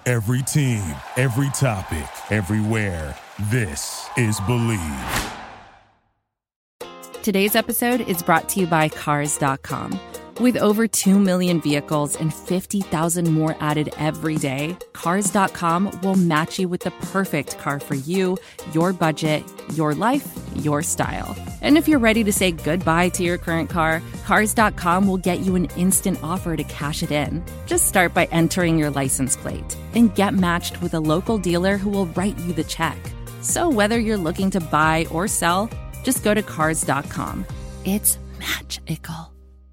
Every team, every topic, everywhere. This is Believe. Today's episode is brought to you by Cars.com. With over 2 million vehicles and 50,000 more added every day, Cars.com will match you with the perfect car for you, your budget, your life, your style. And if you're ready to say goodbye to your current car, Cars.com will get you an instant offer to cash it in. Just start by entering your license plate and get matched with a local dealer who will write you the check. So whether you're looking to buy or sell, just go to Cars.com. It's magical.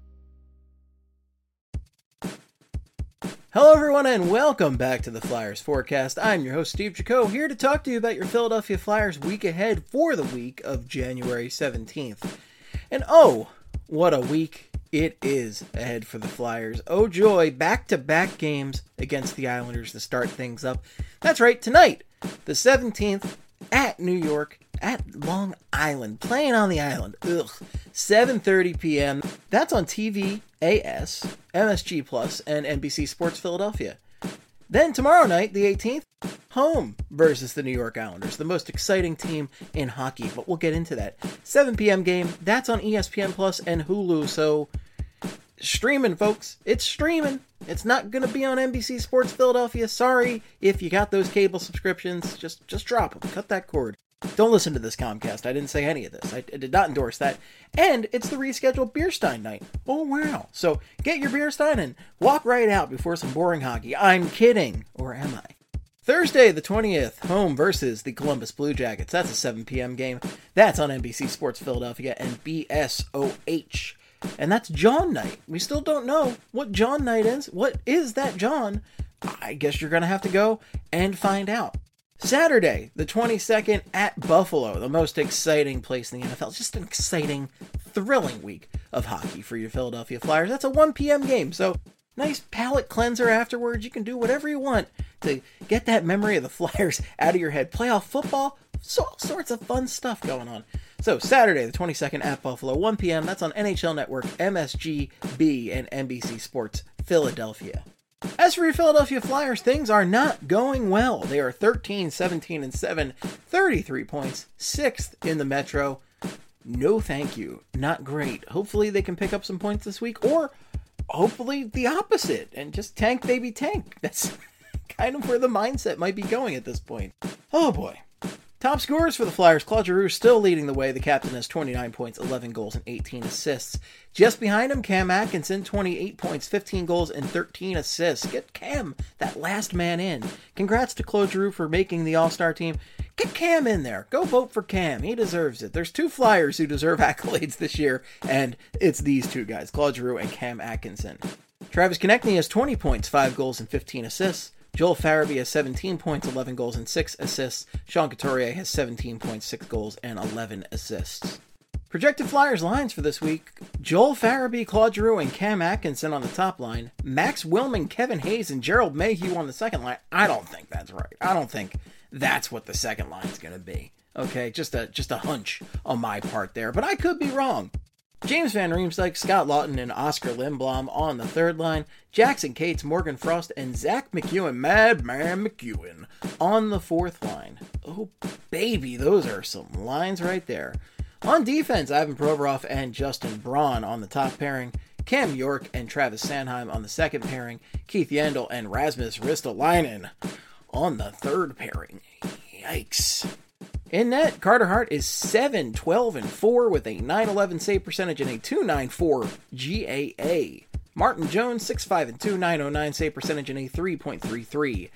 Hello everyone and welcome back to the Flyers Forecast. I'm your host Steve Jaco, here to talk to you about your Philadelphia Flyers week ahead for the week of January 17th. And oh, what a week it is ahead for the Flyers. Oh joy, back-to-back games against the Islanders to start things up. That's right, tonight, the 17th, at New York, at Long Island, playing on the island. 7:30 p.m. That's on TV, AS, MSG Plus, and NBC Sports Philadelphia. Then tomorrow night, the 18th, home versus the New York Islanders, the most exciting team in hockey, but we'll get into that. 7 p.m. game, that's on ESPN Plus and Hulu, so streaming, folks. It's streaming. It's not going to be on NBC Sports Philadelphia. Sorry if you got those cable subscriptions. Just drop them. Cut that cord. Don't listen to this Comcast. I didn't say any of this. I did not endorse that. And it's the rescheduled Beer Stein night. Oh, wow. So get your Beer Stein and walk right out before some boring hockey. I'm kidding. Or am I? Thursday, the 20th, home versus the Columbus Blue Jackets. That's a 7 p.m. game. That's on NBC Sports Philadelphia and BSOH. And that's John night. We still don't know what John night is. What is that John? I guess you're going to have to go and find out. Saturday, the 22nd, at Buffalo, the most exciting place in the NFL. Just an exciting, thrilling week of hockey for your Philadelphia Flyers. That's a 1 p.m. game, so nice palate cleanser afterwards. You can do whatever you want to get that memory of the Flyers out of your head. Playoff football, all sorts of fun stuff going on. So Saturday, the 22nd, at Buffalo, 1 p.m. That's on NHL Network, MSGB, and NBC Sports Philadelphia. As for your Philadelphia Flyers, things are not going well. They are 13, 17, and 7, 33 points, 6th in the Metro. No thank you. Not great. Hopefully they can pick up some points this week, or hopefully the opposite, and just tank, baby, tank. That's kind of where the mindset might be going at this point. Oh boy. Top scorers for the Flyers, Claude Giroux still leading the way. The captain has 29 points, 11 goals, and 18 assists. Just behind him, Cam Atkinson, 28 points, 15 goals, and 13 assists. Get Cam, that last man in. Congrats to Claude Giroux for making the All-Star team. Get Cam in there. Go vote for Cam. He deserves it. There's two Flyers who deserve accolades this year, and it's these two guys, Claude Giroux and Cam Atkinson. Travis Konechny has 20 points, 5 goals, and 15 assists. Joel Farabee has 17 points, 11 goals, and 6 assists. Sean Couturier has 17 points, 6 goals, and 11 assists. Projected Flyers lines for this week: Joel Farabee, Claude Giroux, and Cam Atkinson on the top line. Max Willman, Kevin Hayes, and Gerald Mayhew on the second line. I don't think that's right. I don't think that's what the second line is going to be. Okay, just a hunch on my part there, but I could be wrong. James Van Riemsdyk, Scott Laughton, and Oscar Lindblom on the third line. Jackson Cates, Morgan Frost, and Zach McEwen, Madman McEwen, on the fourth line. Oh, baby, those are some lines right there. On defense, Ivan Provorov and Justin Braun on the top pairing. Cam York and Travis Sanheim on the second pairing. Keith Yandel and Rasmus Ristolainen on the third pairing. Yikes. In net, Carter Hart is 7-12-4 with a .911 save percentage and a .294 GAA. Martin Jones, 6-5-2, .909 save percentage and a 3.33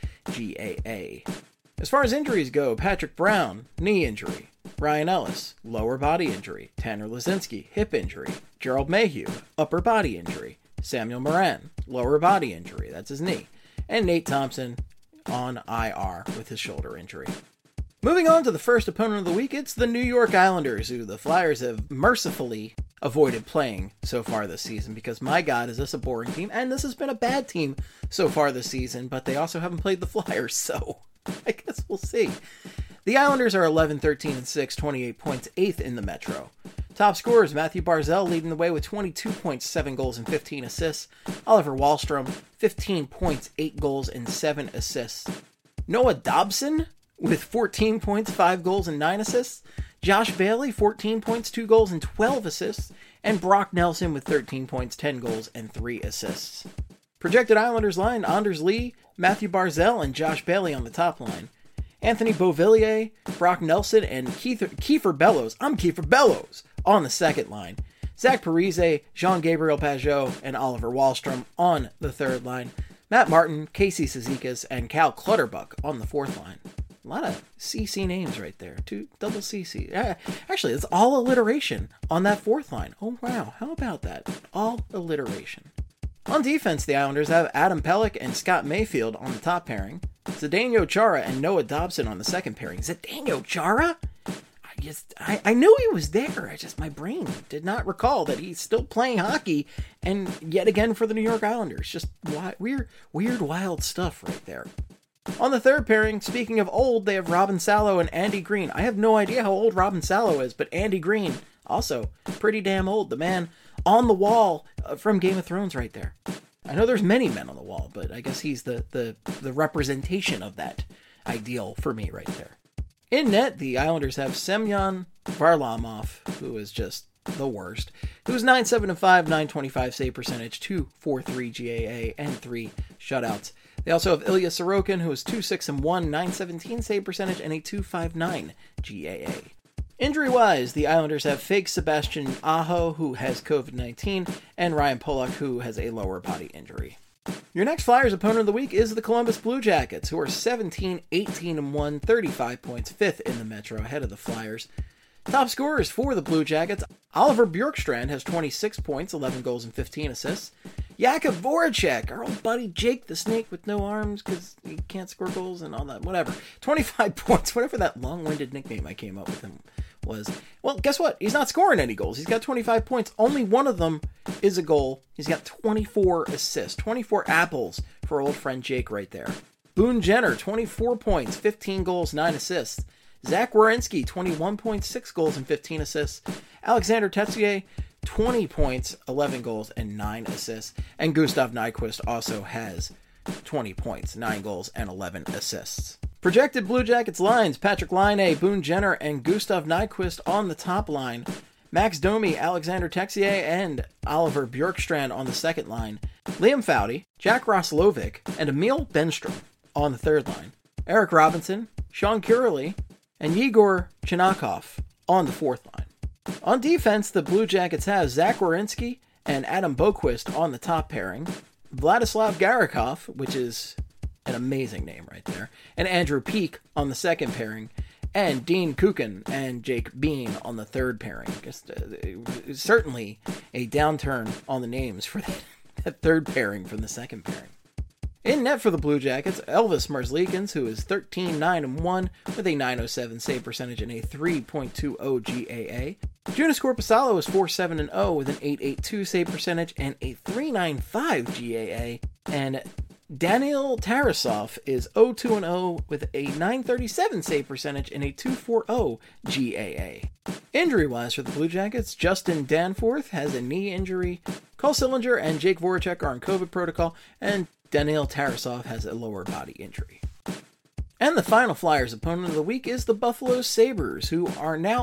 GAA. As far as injuries go, Patrick Brown, knee injury. Ryan Ellis, lower body injury. Tanner Lazinski, hip injury. Gerald Mayhew, upper body injury. Samuel Morin, lower body injury. That's his knee. And Nate Thompson on IR with his shoulder injury. Moving on to the first opponent of the week, it's the New York Islanders, who the Flyers have mercifully avoided playing so far this season, because my God, is this a boring team, and this has been a bad team so far this season, but they also haven't played the Flyers, so I guess we'll see. The Islanders are 11, 13, and 6, 28 points, 8th in the Metro. Top scorers, Matthew Barzal leading the way with 22 points, 7 goals, and 15 assists. Oliver Wahlstrom, 15 points, 8 goals, and 7 assists. Noah Dobson with 14 points, 5 goals, and 9 assists. Josh Bailey, 14 points, 2 goals, and 12 assists. And Brock Nelson with 13 points, 10 goals, and 3 assists. Projected Islanders line, Anders Lee, Matthew Barzal, and Josh Bailey on the top line. Anthony Beauvillier, Brock Nelson, and Kiefer Bellows. I'm Kiefer Bellows on the second line. Zach Parise, Jean-Gabriel Pageau, and Oliver Wahlstrom on the third line. Matt Martin, Casey Cizikas, and Cal Clutterbuck on the fourth line. A lot of CC names right there. 2 double CC. Actually, it's all alliteration on that fourth line. Oh, wow. How about that? All alliteration. On defense, the Islanders have Adam Pelech and Scott Mayfield on the top pairing. Zdeno Chara and Noah Dobson on the second pairing. Zdeno Chara? I knew he was there. My brain did not recall that he's still playing hockey, and yet again for the New York Islanders. Just weird, wild stuff right there. On the third pairing, speaking of old, they have Robin Salo and Andy Green. I have no idea how old Robin Salo is, but Andy Green, also pretty damn old. The man on the wall from Game of Thrones right there. I know there's many men on the wall, but I guess he's the representation of that ideal for me right there. In net, the Islanders have Semyon Varlamov, who is just the worst, who's 9-7-5, 925 save percentage, 2.43 GAA, and 3 shutouts. They also have Ilya Sorokin, who is 2-6-1, 917 save percentage, and a 2.59 GAA. Injury-wise, the Islanders have fake Sebastian Aho, who has COVID-19, and Ryan Pollock, who has a lower body injury. Your next Flyers opponent of the week is the Columbus Blue Jackets, who are 17-18-1, 35 points, 5th in the Metro, ahead of the Flyers. Top scorers for the Blue Jackets, Oliver Bjorkstrand has 26 points, 11 goals, and 15 assists. Jakub Voracek, our old buddy Jake the Snake with no arms because he can't score goals and all that, whatever. 25 points, whatever that long-winded nickname I came up with him was. Well, guess what? He's not scoring any goals. He's got 25 points. Only one of them is a goal. He's got 24 assists, 24 apples for old friend Jake right there. Boone Jenner, 24 points, 15 goals, 9 assists. Zach Werenski, 21 points, 6 goals, and 15 assists. Alexander Tetsier, 20 points, 11 goals, and 9 assists. And Gustav Nyquist also has 20 points, 9 goals, and 11 assists. Projected Blue Jackets lines, Patrick Laine, Boone Jenner, and Gustav Nyquist on the top line. Max Domi, Alexander Texier, and Oliver Bjorkstrand on the second line. Liam Foudy, Jack Roslovic, and Emil Benstrom on the third line. Eric Robinson, Sean Curley, and Yegor Chinakov on the fourth line. On defense, the Blue Jackets have Zach Werenski and Adam Boquist on the top pairing. Vladislav Garikov, which is an amazing name right there, and Andrew Peak on the second pairing, and Dean Kukin and Jake Bean on the third pairing. Certainly a downturn on the names for that third pairing from the second pairing. In net for the Blue Jackets, Elvis Merzlikins, who is 13-9-1 with a 907 save percentage and a 3.20 GAA. Joonas Korpisalo is 4-7-0 with an 882 save percentage and a 395 GAA. And Daniil Tarasov is 0-2-0 with a 937 save percentage and a 240 GAA. Injury-wise for the Blue Jackets, Justin Danforth has a knee injury. Cole Sillinger and Jake Voracek are on COVID protocol, and Daniil Tarasov has a lower body injury. And the final Flyers opponent of the week is the Buffalo Sabres, who are now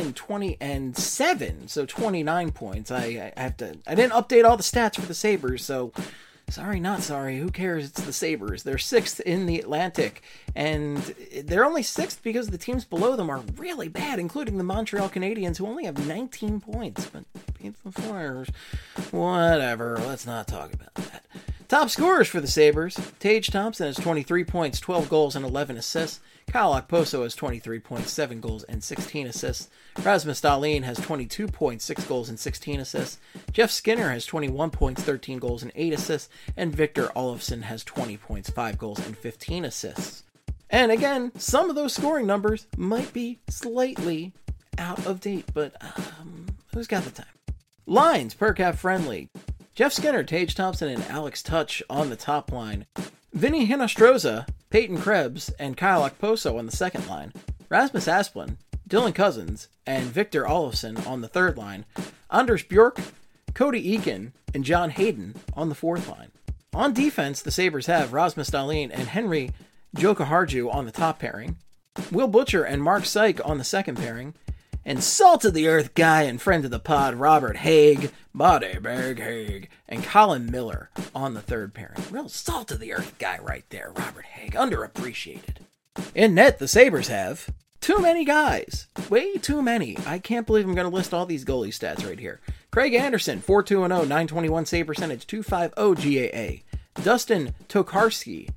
11-20-7, so 29 points. I didn't update all the stats for the Sabres, so sorry, not sorry. Who cares? It's the Sabres. They're 6th in the Atlantic, and they're only 6th because the teams below them are really bad, including the Montreal Canadiens, who only have 19 points. But beat the Flyers. Whatever. Let's not talk about that. Top scorers for the Sabres. Tage Thompson has 23 points, 12 goals, and 11 assists. Kyle Okposo has 23 points, 7 goals, and 16 assists. Rasmus Dahlin has 22 points, 6 goals, and 16 assists. Jeff Skinner has 21 points, 13 goals, and 8 assists. And Victor Olofsson has 20 points, 5 goals, and 15 assists. And again, some of those scoring numbers might be slightly out of date, but who's got the time? Lines, per cap friendly. Jeff Skinner, Tage Thompson, and Alex Touch on the top line. Vinny Hinostroza, Peyton Krebs, and Kyle Okposo on the second line. Rasmus Asplund, Dylan Cousins, and Victor Olofsson on the third line, Anders Bjork, Cody Eakin, and John Hayden on the fourth line. On defense, the Sabres have Rasmus Dahlin and Henry Jokiharju on the top pairing, Will Butcher and Mark Syke on the second pairing, and salt-of-the-earth guy and friend of the pod, Robert Haig, Bodyberg Haig, and Colin Miller on the third pairing. Real salt-of-the-earth guy right there, Robert Haig, underappreciated. In net, the Sabres have too many guys. Way too many. I can't believe I'm going to list all these goalie stats right here. Craig Anderson, 4-2-0, 921 save percentage, 250 GAA. Dustin Tokarski,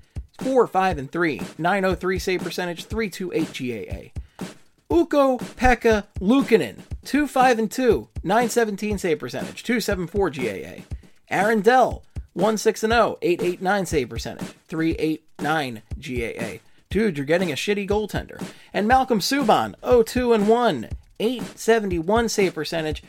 4-5-3, 903 save percentage, 328 GAA. Ukko-Pekka Luukkonen, 2-5-2, 917 save percentage, 274 GAA. Aaron Dell, 1-6-0, 889 save percentage, 389 GAA. Dude, you're getting a shitty goaltender. And Malcolm Subban, 0-2-1, 871 save percentage,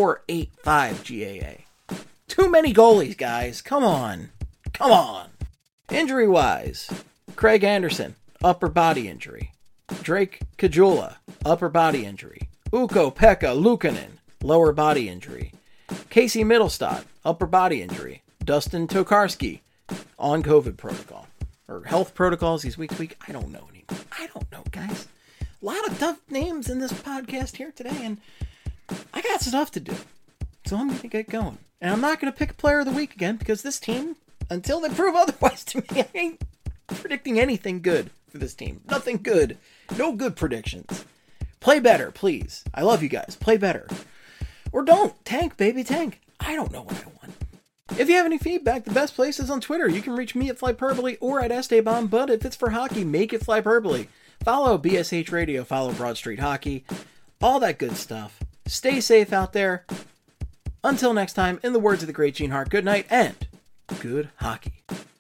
485 GAA. Too many goalies, guys. Come on. Come on. Injury-wise, Craig Anderson, upper body injury. Drake Caggiula, upper body injury. Ukko-Pekka Luukkonen, lower body injury. Casey Middlestad, upper body injury. Dustin Tokarski, on COVID protocol. Or health protocols, he's week to week. I don't know anymore. I don't know, guys. A lot of tough names in this podcast here today, and I got stuff to do. So I'm going to get going. And I'm not going to pick a player of the week again, because this team, until they prove otherwise to me, I ain't predicting anything good for this team. Nothing good. No good predictions. Play better, please. I love you guys. Play better. Or don't. Tank, baby, tank. I don't know what I want. If you have any feedback, the best place is on Twitter. You can reach me at Flyperbole or at Esteban, but if it's for hockey, make it Flyperbole. Follow BSH Radio, follow Broad Street Hockey, all that good stuff. Stay safe out there. Until next time, in the words of the great Gene Hart, good night and good hockey.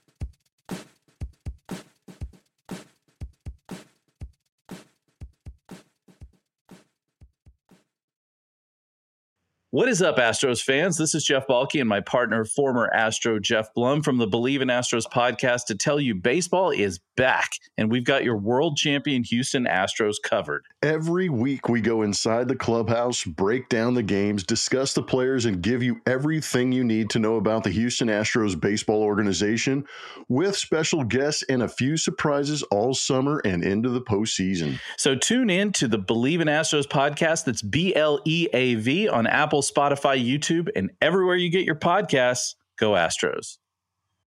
What is up, Astros fans? This is Jeff Balke and my partner, former Astro Jeff Blum from the Believe in Astros podcast to tell you baseball is back, and we've got your world champion Houston Astros covered. Every week we go inside the clubhouse, break down the games, discuss the players, and give you everything you need to know about the Houston Astros baseball organization with special guests and a few surprises all summer and into the postseason. So tune in to the Believe in Astros podcast. That's BLEAV on Apple, Spotify, YouTube, and everywhere you get your podcasts. Go Astros.